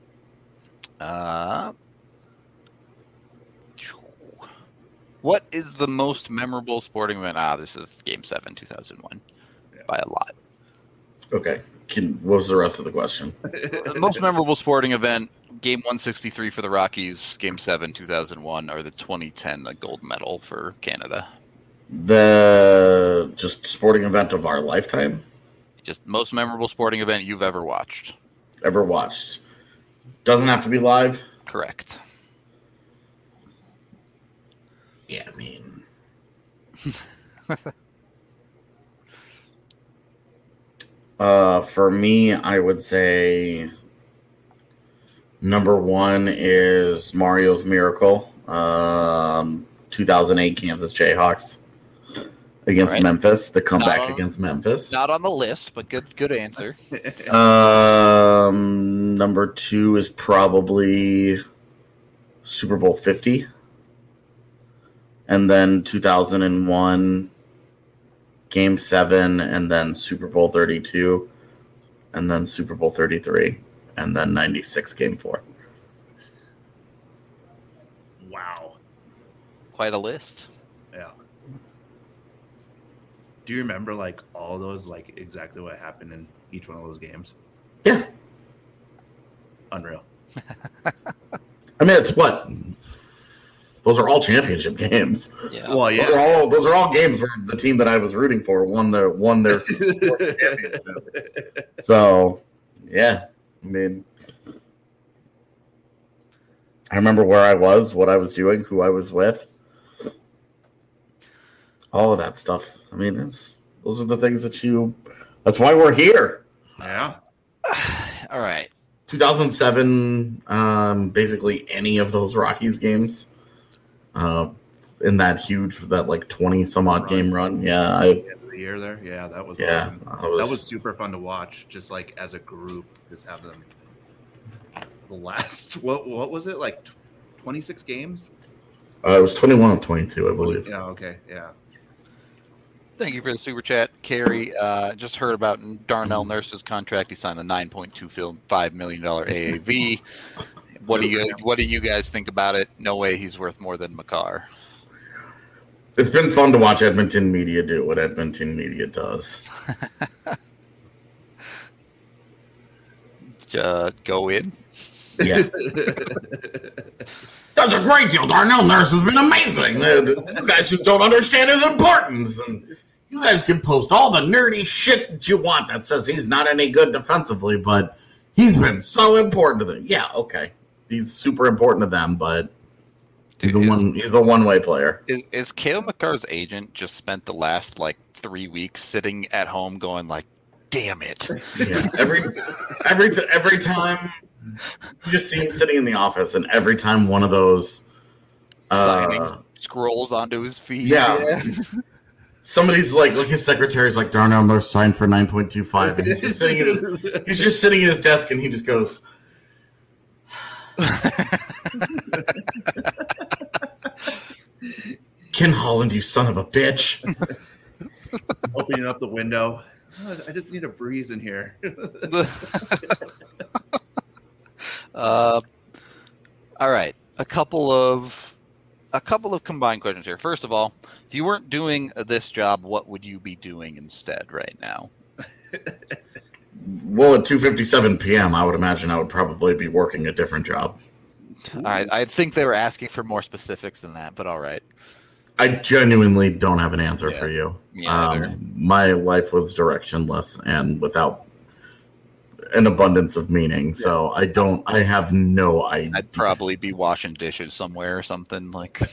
Uh, what is the most memorable sporting event? Ah, this is Game Seven, two thousand one, Yeah. by a lot. Okay. Can, what was the rest of the question? The most memorable sporting event, Game one sixty-three for the Rockies, Game seven, two thousand one, or the twenty ten gold medal for Canada? The just sporting event of our lifetime Just most memorable sporting event you've ever watched. ever watched. Doesn't have to be live. Correct. Yeah, I mean. uh, for me, I would say number one is Mario's Miracle, um, two thousand eight Kansas Jayhawks against Right. Memphis. The comeback Not on- against Memphis. Not on the list, but good good answer. Um, number two is probably Super Bowl fifty. And then two thousand one, Game seven, and then Super Bowl thirty-two, and then Super Bowl thirty-three, and then ninety-six, Game four. Wow. Quite a list. Yeah. Do you remember like all those, like exactly what happened in each one of those games? Yeah. Unreal. I mean, it's what? Those are all championship games. Yeah. Well, Those are yeah. all those are all games where the team that I was rooting for won their won their championship. So, yeah, I mean, I remember where I was, what I was doing, who I was with, all of that stuff. I mean, it's those are the things that you. That's why we're here. Yeah. All right. two thousand seven, um, basically any of those Rockies games, uh, in that huge, that like twenty some odd Run. game run. Yeah, I Yeah. year there. Yeah, that was Yeah, awesome. I was- That was super fun to watch. Just like as a group, just have them. The last what what was it like? twenty-six games. Uh, it was twenty-one of twenty-two, I believe. Yeah. Okay. Yeah. Thank you for the super chat, Carrie. Uh, just heard about Darnell Nurse's contract. He signed the nine point two five million dollar A A V. What do you What do you guys think about it? No way he's worth more than Makar. It's been fun to watch Edmonton media do what Edmonton media does. uh, go in. Yeah. That's a great deal. Darnell Nurse has been amazing. You guys just don't understand his importance. And you guys can post all the nerdy shit that you want that says he's not any good defensively, but he's been so important to them. Yeah, okay. He's super important to them, but he's Dude, a is, one he's a one-way player. Is, is Cale Makar's agent just spent the last like three weeks sitting at home going like, damn it. Yeah. Every every t- every time you just see him sitting in the office, and every time one of those Signing uh, scrolls onto his feed. Yeah. Somebody's like, like his secretary's like, Darnell Nurse signed for nine point two five, and he's just sitting at his he's just sitting at his desk, and he just goes, Ken Holland, you son of a bitch. Opening up the window. Oh, I just need a breeze in here. uh, all right, a couple of a couple of combined questions here. First of all, if you weren't doing this job, what would you be doing instead right now? Well, at two fifty-seven p.m., I would imagine I would probably be working a different job. I, I think they were asking for more specifics than that, but all right. I genuinely don't have an answer Yeah. for you. Me either. Um, my life was directionless and without an abundance of meaning, so I don't. I have no idea. I'd probably be washing dishes somewhere or something like.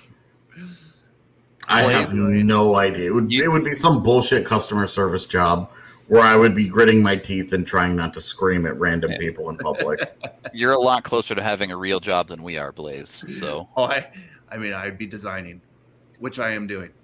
I have no idea. It would, You- it would be some bullshit customer service job where I would be gritting my teeth and trying not to scream at random Yeah. people in public. You're a lot closer to having a real job than we are, Blaze. So Oh, I, I mean, I'd be designing, which I am doing.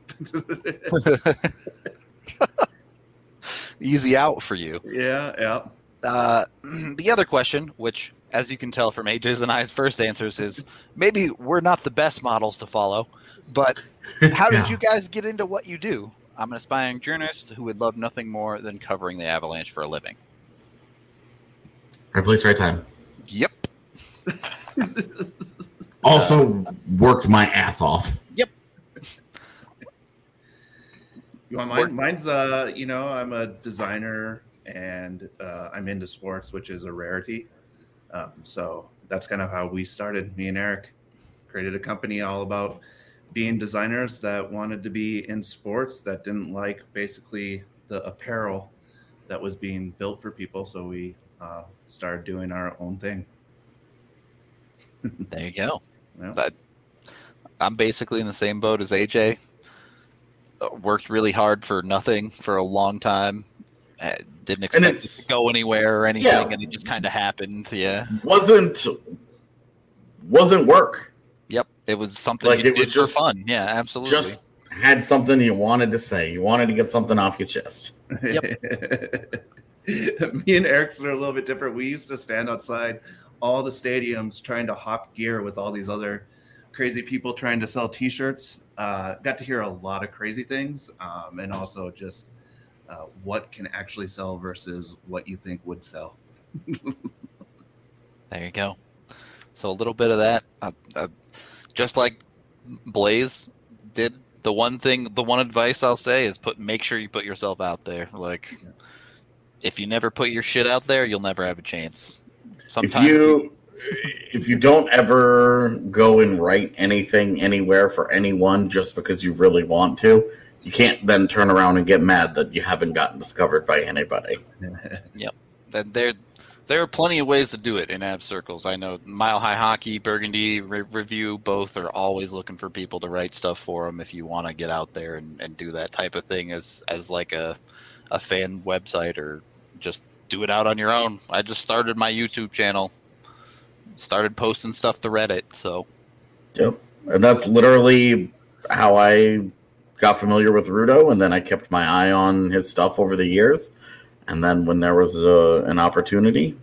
easy out for you. Yeah, yeah. Uh, the other question, which, as you can tell from A J's and I's first answers, is maybe we're not the best models to follow, but how did Yeah. you guys get into what you do? I'm an aspiring journalist who would love nothing more than covering the Avalanche for a living. Right place, right time. Yep. Also worked my ass off. You want mine? Mine's, uh, you know, I'm a designer and uh, I'm into sports, which is a rarity. Um, so that's kind of how we started. Me and Eric created a company all about being designers that wanted to be in sports that didn't like basically the apparel that was being built for people. So we uh, started doing our own thing. There you go. Yeah. That, I'm basically in the same boat as A J. Uh, worked really hard for nothing for a long time. Uh, didn't expect it it's- to go anywhere or anything, Yeah. and it just kind of happened. Yeah. Wasn't wasn't work. Yep. It was something Like, you it did was for just- fun. Yeah, absolutely. Just had something you wanted to say. You wanted to get something off your chest. Me and Eric's are a little bit different. We used to stand outside all the stadiums trying to hawk gear with all these other crazy people trying to sell T-shirts. Uh, got to hear a lot of crazy things, um, and also just uh, what can actually sell versus what you think would sell. There you go. So a little bit of that, uh, uh, just like Blaze did. The one thing, the one advice I'll say is put make sure you put yourself out there. Like, if you never put your shit out there, you'll never have a chance. Sometimes If you if you don't ever go and write anything anywhere for anyone just because you really want to, you can't then turn around and get mad that you haven't gotten discovered by anybody. that there there are plenty of ways to do it in Av circles. I know Mile High Hockey, Burgundy Re- Review, both are always looking for people to write stuff for them if you want to get out there and, and do that type of thing as as like a a fan website, or just do it out on your own. I just started my YouTube channel, started posting stuff to Reddit, so Yep. And that's literally how I got familiar with Rudo, and then I kept my eye on his stuff over the years. And then when there was a, an opportunity,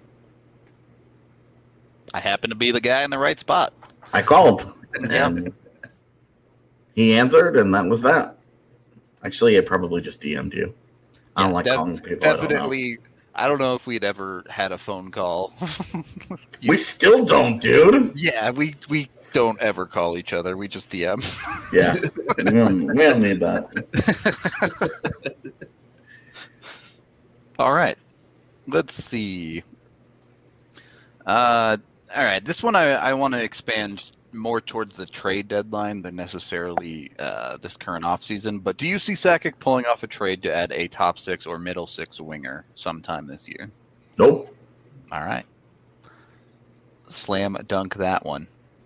I happened to be the guy in the right spot. I called. And he answered, and that was that. Actually, I probably just D M'd you. I don't Yeah, like def- calling people. Definitely. I don't know if we'd ever had a phone call. We still don't, dude. Yeah, we we don't ever call each other. We just D M. Yeah, we don't, we don't need that. All right. Let's see. Uh, all right. This one I, I want to expand more towards the trade deadline than necessarily uh, this current offseason. But do you see Sakic pulling off a trade to add a top six or middle six winger sometime this year? Nope. All right. Slam dunk that one.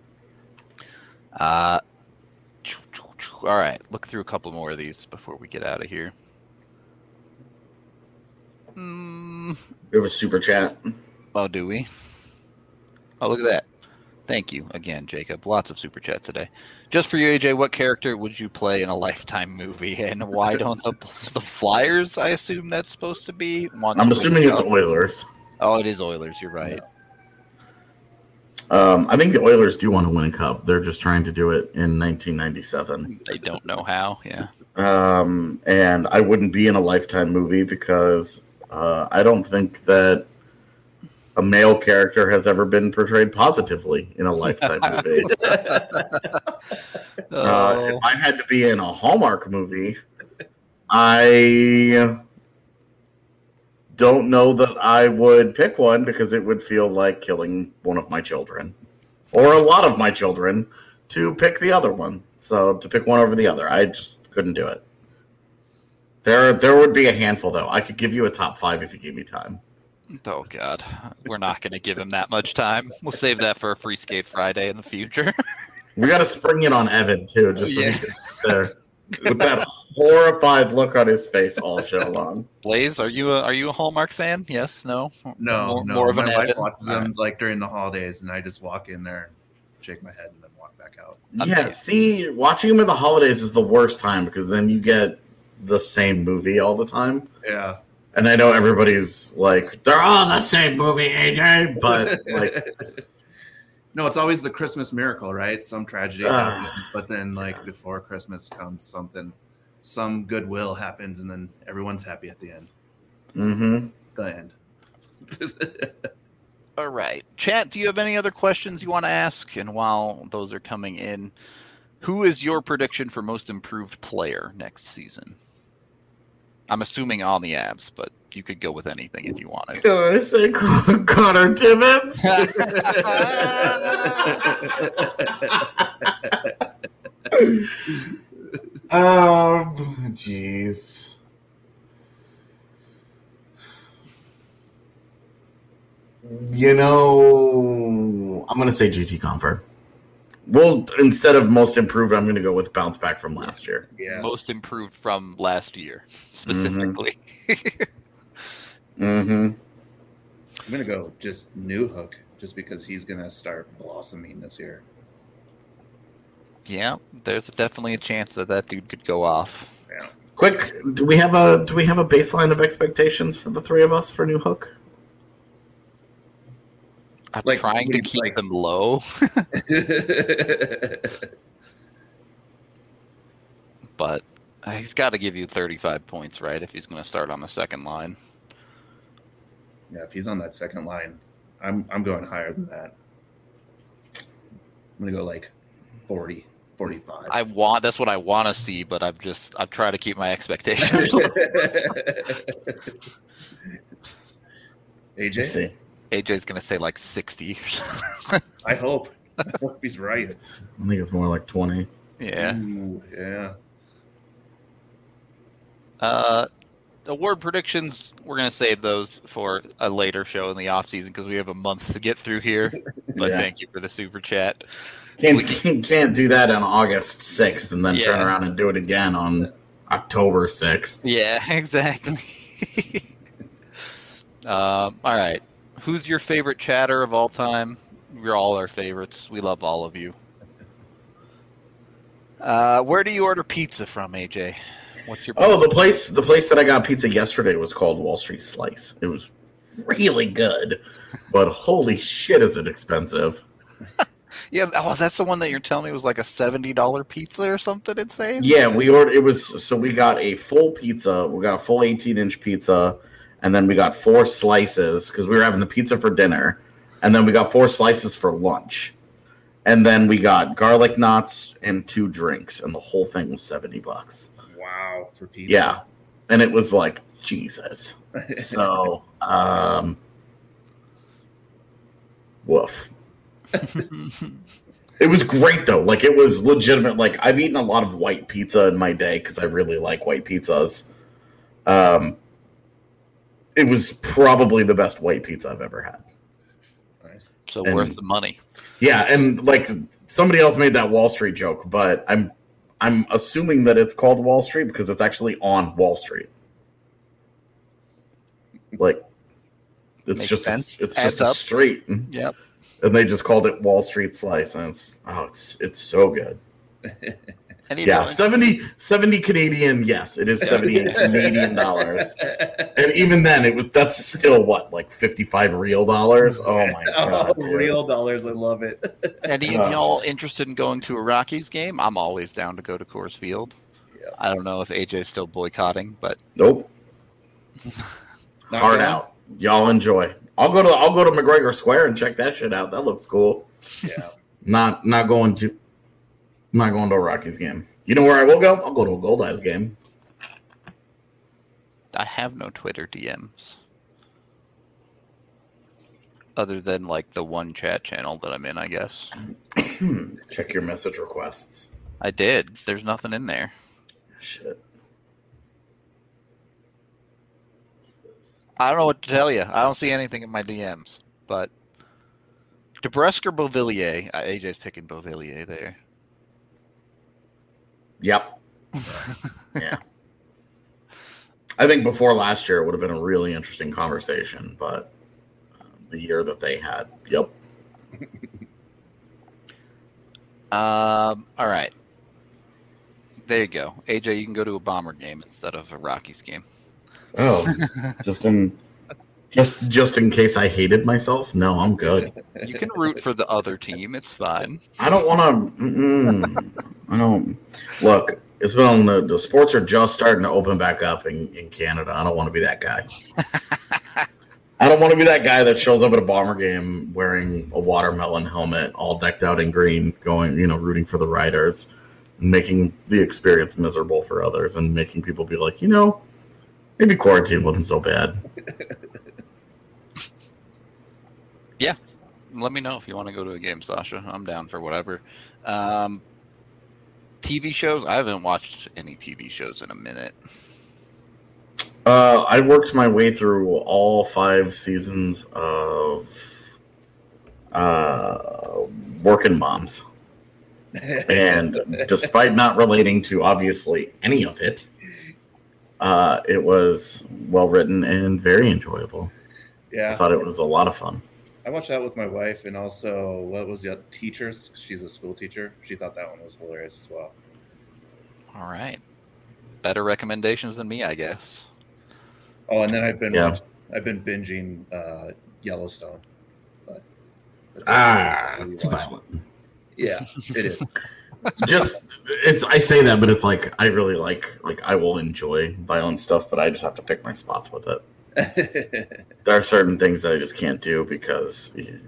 Uh, all right. Look through a couple more of these before we get out of here. Mm. We have a super chat. Oh, do we? Oh, look at that. Thank you again, Jacob. Lots of super chats today. Just for you, A J, what character would you play in a Lifetime movie, and why don't the the Flyers? I assume that's supposed to be. Want I'm to assuming win it's up? Oilers. Oh, it is Oilers. You're right. Um, I think the Oilers do want to win a cup. They're just trying to do it in nineteen ninety-seven. They don't know how. Yeah. Um, and I wouldn't be in a Lifetime movie because uh, I don't think that a male character has ever been portrayed positively in a Lifetime movie. Oh. Uh, if I had to be in a Hallmark movie, I don't know that I would pick one because it would feel like killing one of my children or a lot of my children to pick the other one. So to pick one over the other, I just couldn't do it. There, there would be a handful though. I could give you a top five if you gave me time. Oh God, we're not going to give him that much time. We'll save that for a Free Skate Friday in the future. We got to spring it on Evan too, just so Yeah. he can sit there with that horrified look on his face all show long. Blaze, are you a are you a Hallmark fan? Yes, no, No, more, no. more of my an wife Evan. watches All them right. like during the holidays, and I just walk in there and shake my head and then walk back out. Yeah, Okay. see, watching them in the holidays is the worst time because then you get the same movie all the time. Yeah. And I know everybody's like, they're all the same movie, A J, but like, no, it's always the Christmas miracle, right? Some tragedy Ah. happens, but then like before Christmas comes something, some goodwill happens, and then everyone's happy at the end. mm-hmm. The end. All right. Chat, do you have any other questions you want to ask? And while those are coming in, who is your prediction for most improved player next season? I'm assuming on the Abs, but you could go with anything if you wanted. Can I say Connor Timmins? Um, jeez. You know, I'm going to say G T Confer. Well, instead of most improved, I'm going to go with bounce back from last year. Yes. Most improved from last year, specifically. Mm-hmm. I'm gonna go just new Hook, just because he's gonna start blossoming this year. Yeah, there's definitely a chance that that dude could go off. Yeah. Quick, do we have a do we have a baseline of expectations for the three of us for New Hook? I'm Like, trying to we- keep like- them low, but he's got to give you thirty-five points, right, if he's going to start on the second line. Yeah, if he's on that second line, I'm I'm going higher than that. I'm gonna go like forty, forty-five. I want that's what I want to see, but I've just I've tried to keep my expectations low. A Let's J, see. A J's going to say like sixty or something. I hope. I hope he's right. I think it's more like twenty. Yeah. Ooh, yeah. Uh, award predictions, we're going to save those for a later show in the offseason because we have a month to get through here. But Yeah. thank you for the super chat. Can't, We can't do that on August sixth and then turn Yeah. around and do it again on October sixth. Yeah, exactly. um, all right. Who's your favorite chatter of all time? You're all our favorites. We love all of you. Uh, where do you order pizza from, A J? What's your Oh, the place the place that I got pizza yesterday was called Wall Street Slice. It was really good, but holy shit, is it expensive? Yeah, oh, that's the one that you're telling me was like a seventy dollar pizza or something insane? Yeah, we ordered it was so we got a full pizza, we got a full eighteen inch pizza, and then we got four slices because we were having the pizza for dinner, and then we got four slices for lunch. And then we got garlic knots and two drinks, and the whole thing was seventy bucks. Wow, for pizza. Yeah. And it was like, Jesus. So, um, woof. It was great, though. Like, it was legitimate. Like, I've eaten a lot of white pizza in my day because I really like white pizzas. Um, it was probably the best white pizza I've ever had. Nice. So And- worth the money. Yeah, and like somebody else made that Wall Street joke, but I'm I'm assuming that it's called Wall Street because it's actually on Wall Street. Like it's Makes just sense. A, it's Adds just a up. street, Yep. and they just called it Wall Street Slice, and it's oh, it's it's so good. And you Yeah, know, seventy, seventy Canadian. Yes, it is seventy-eight Canadian dollars, and even then, it was that's still what like fifty-five real dollars. Oh my god, Oh, dude. real dollars. I love it. any Uh. of y'all interested in going to a Rockies game? I'm always down to go to Coors Field. Yeah. I don't know if A J's still boycotting, but Nope. Not Hard going? out. Y'all enjoy. I'll go to I'll go to McGregor Square and check that shit out. That looks cool. Yeah. Not not going to not going to a Rockies game. You know where I will go? I'll go to a Gold Eyes game. I have no Twitter D Ms. Other than like the one chat channel that I'm in, I guess. Check your message requests. I did. There's nothing in there. Shit. I don't know what to tell you. I don't see anything in my D Ms. But DeBrusque or Beauvillier? Uh, A J's picking Beauvillier there. Yep. Yeah. I think before last year it would have been a really interesting conversation, but uh, the year that they had, yep. Um. All right. There you go. A J, you can go to a Bomber game instead of a Rockies game. Oh, just in just just in case I hated myself. No, I'm good. You can root for the other team. It's fine. I don't want to. I don't look. It's been the, the sports are just starting to open back up in, in Canada. I don't want to be that guy. I don't want to be that guy that shows up at a Bomber game wearing a watermelon helmet, all decked out in green, going, you know, rooting for the Riders, and making the experience miserable for others, and making people be like, you know, maybe quarantine wasn't so bad. Let me know if you want to go to a game, Sasha. I'm down for whatever. Um, T V shows? I haven't watched any T V shows in a minute. Uh, I worked my way through all five seasons of uh, Working Moms. And despite not relating to obviously any of it, uh, it was well written and very enjoyable. Yeah. I thought it was a lot of fun. I watched that with my wife, and also what was the other teachers? She's a school teacher. She thought that one was hilarious as well. All right. Better recommendations than me, I guess. Oh, and then I've been Yeah. watch- I've been binging uh, Yellowstone. But that's Ah, really too watch. violent. Yeah, it is. Just it's I say that, but it's like I really like like I will enjoy violent stuff, but I just have to pick my spots with it. There are certain things that I just can't do because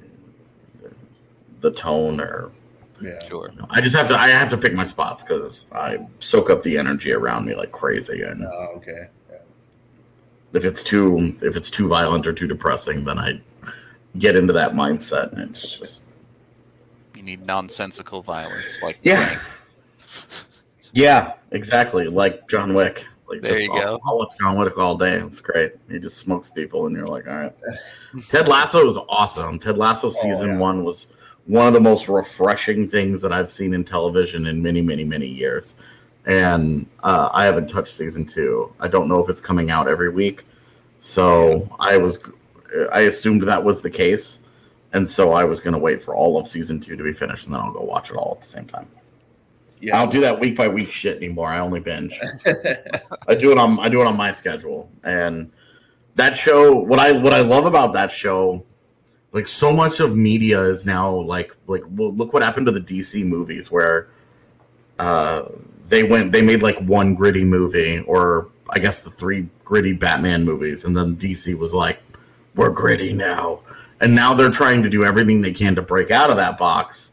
the tone or yeah. Sure. you know, I just have to I have to pick my spots because I soak up the energy around me like crazy, and Oh, okay. Yeah. if it's too if it's too violent or too depressing, then I get into that mindset, and it's just You need nonsensical violence. Like yeah, Frank. yeah, exactly, like John Wick. Like There just, you I'll, go. I'll watch John Wick all day. It's great. He just smokes people, and you're like, all right. Ted Lasso is awesome. Ted Lasso season yeah. one was one of the most refreshing things that I've seen in television in many, many, many years. And uh, I haven't touched season two. I don't know if it's coming out every week. So I was, I assumed that was the case. And so I was going to wait for all of season two to be finished, and then I'll go watch it all at the same time. Yeah. I don't do that week by week shit anymore. I only binge. I do it on I do it on my schedule. And that show, what I what I love about that show, like so much of media is now like like well, look what happened to the D C movies where uh, they went they made like one gritty movie, or I guess the three gritty Batman movies, and then D C was like, we're gritty now. And now they're trying to do everything they can to break out of that box.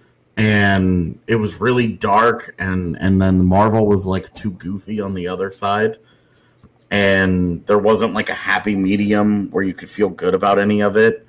And it was really dark, and, and then Marvel was like too goofy on the other side. And there wasn't like a happy medium where you could feel good about any of it.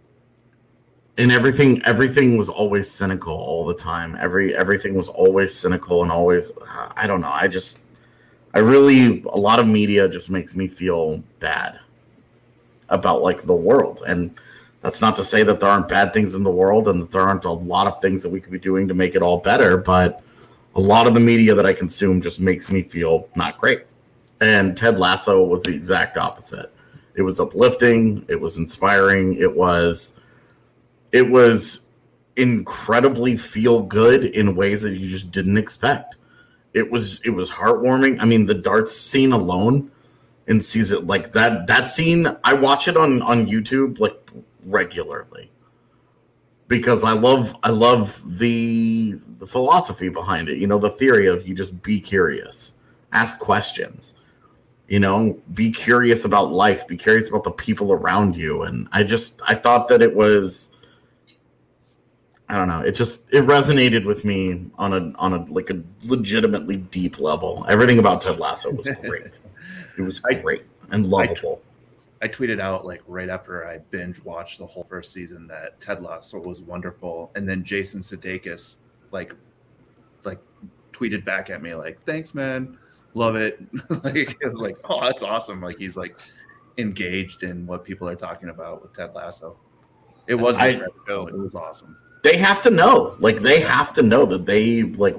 And everything everything was always cynical all the time. Every everything was always cynical and always, I don't know. I just, I really, a lot of media just makes me feel bad about like the world. And that's not to say that there aren't bad things in the world and that there aren't a lot of things that we could be doing to make it all better. But a lot of the media that I consume just makes me feel not great. And Ted Lasso was the exact opposite. It was uplifting. It was inspiring. It was, it was incredibly feel good in ways that you just didn't expect. It was, it was heartwarming. I mean, the darts scene alone in season, like that, that scene, I watch it on, on YouTube, like, regularly, because I love I love the the philosophy behind it. You know, the theory of you just be curious, ask questions, you know, be curious about life, be curious about the people around you. And I just I thought that it was, I don't know, it just it resonated with me on a on a like a legitimately deep level. Everything about Ted Lasso was great. It was great I, and lovable. I, I tweeted out like right after I binge watched the whole first season that Ted Lasso was wonderful, and then Jason Sudeikis like like tweeted back at me like, "Thanks, man, love it." Like it was like, "Oh, that's awesome!" Like he's like engaged in what people are talking about with Ted Lasso. It was I, it was awesome. They have to know, like they have to know that they like.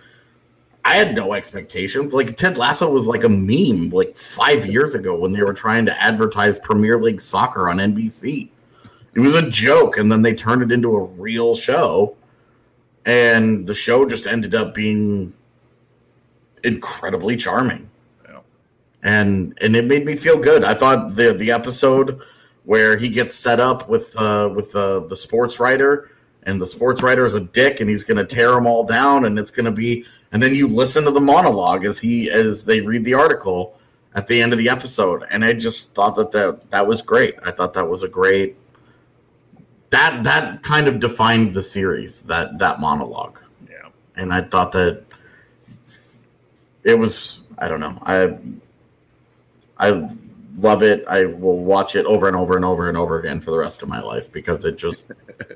I had no expectations. Like Ted Lasso was like a meme like five years ago when they were trying to advertise Premier League soccer on N B C. It was a joke, and then they turned it into a real show, and the show just ended up being incredibly charming. Yeah. And and it made me feel good. I thought the the episode where he gets set up with uh, with uh, the sports writer, and the sports writer is a dick, and he's going to tear them all down, and it's going to be. And then you listen to the monologue as he as they read the article at the end of the episode, and I just thought that that, that was great. I thought that was a great that that kind of defined the series, that that monologue. Yeah, and I thought that it was. I don't know. I I love it. I will watch it over and over and over and over again for the rest of my life because it just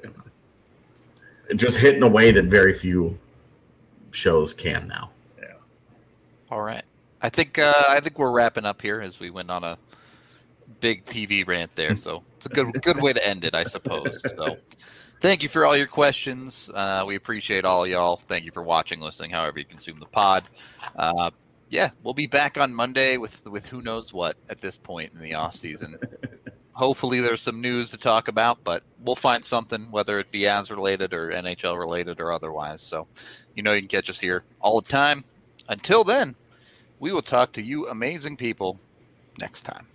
it just hit in a way that very few shows can now. Yeah. All right. I think uh, I think we're wrapping up here as we went on a big T V rant there. So it's a good good way to end it, I suppose. So thank you for all your questions. Uh, we appreciate all y'all. Thank you for watching, listening, however you consume the pod. Uh, yeah, we'll be back on Monday with with who knows what at this point in the off season. Hopefully there's some news to talk about, but we'll find something, whether it be Avs related or N H L related or otherwise. So, you know, you can catch us here all the time. Until then, we will talk to you amazing people next time.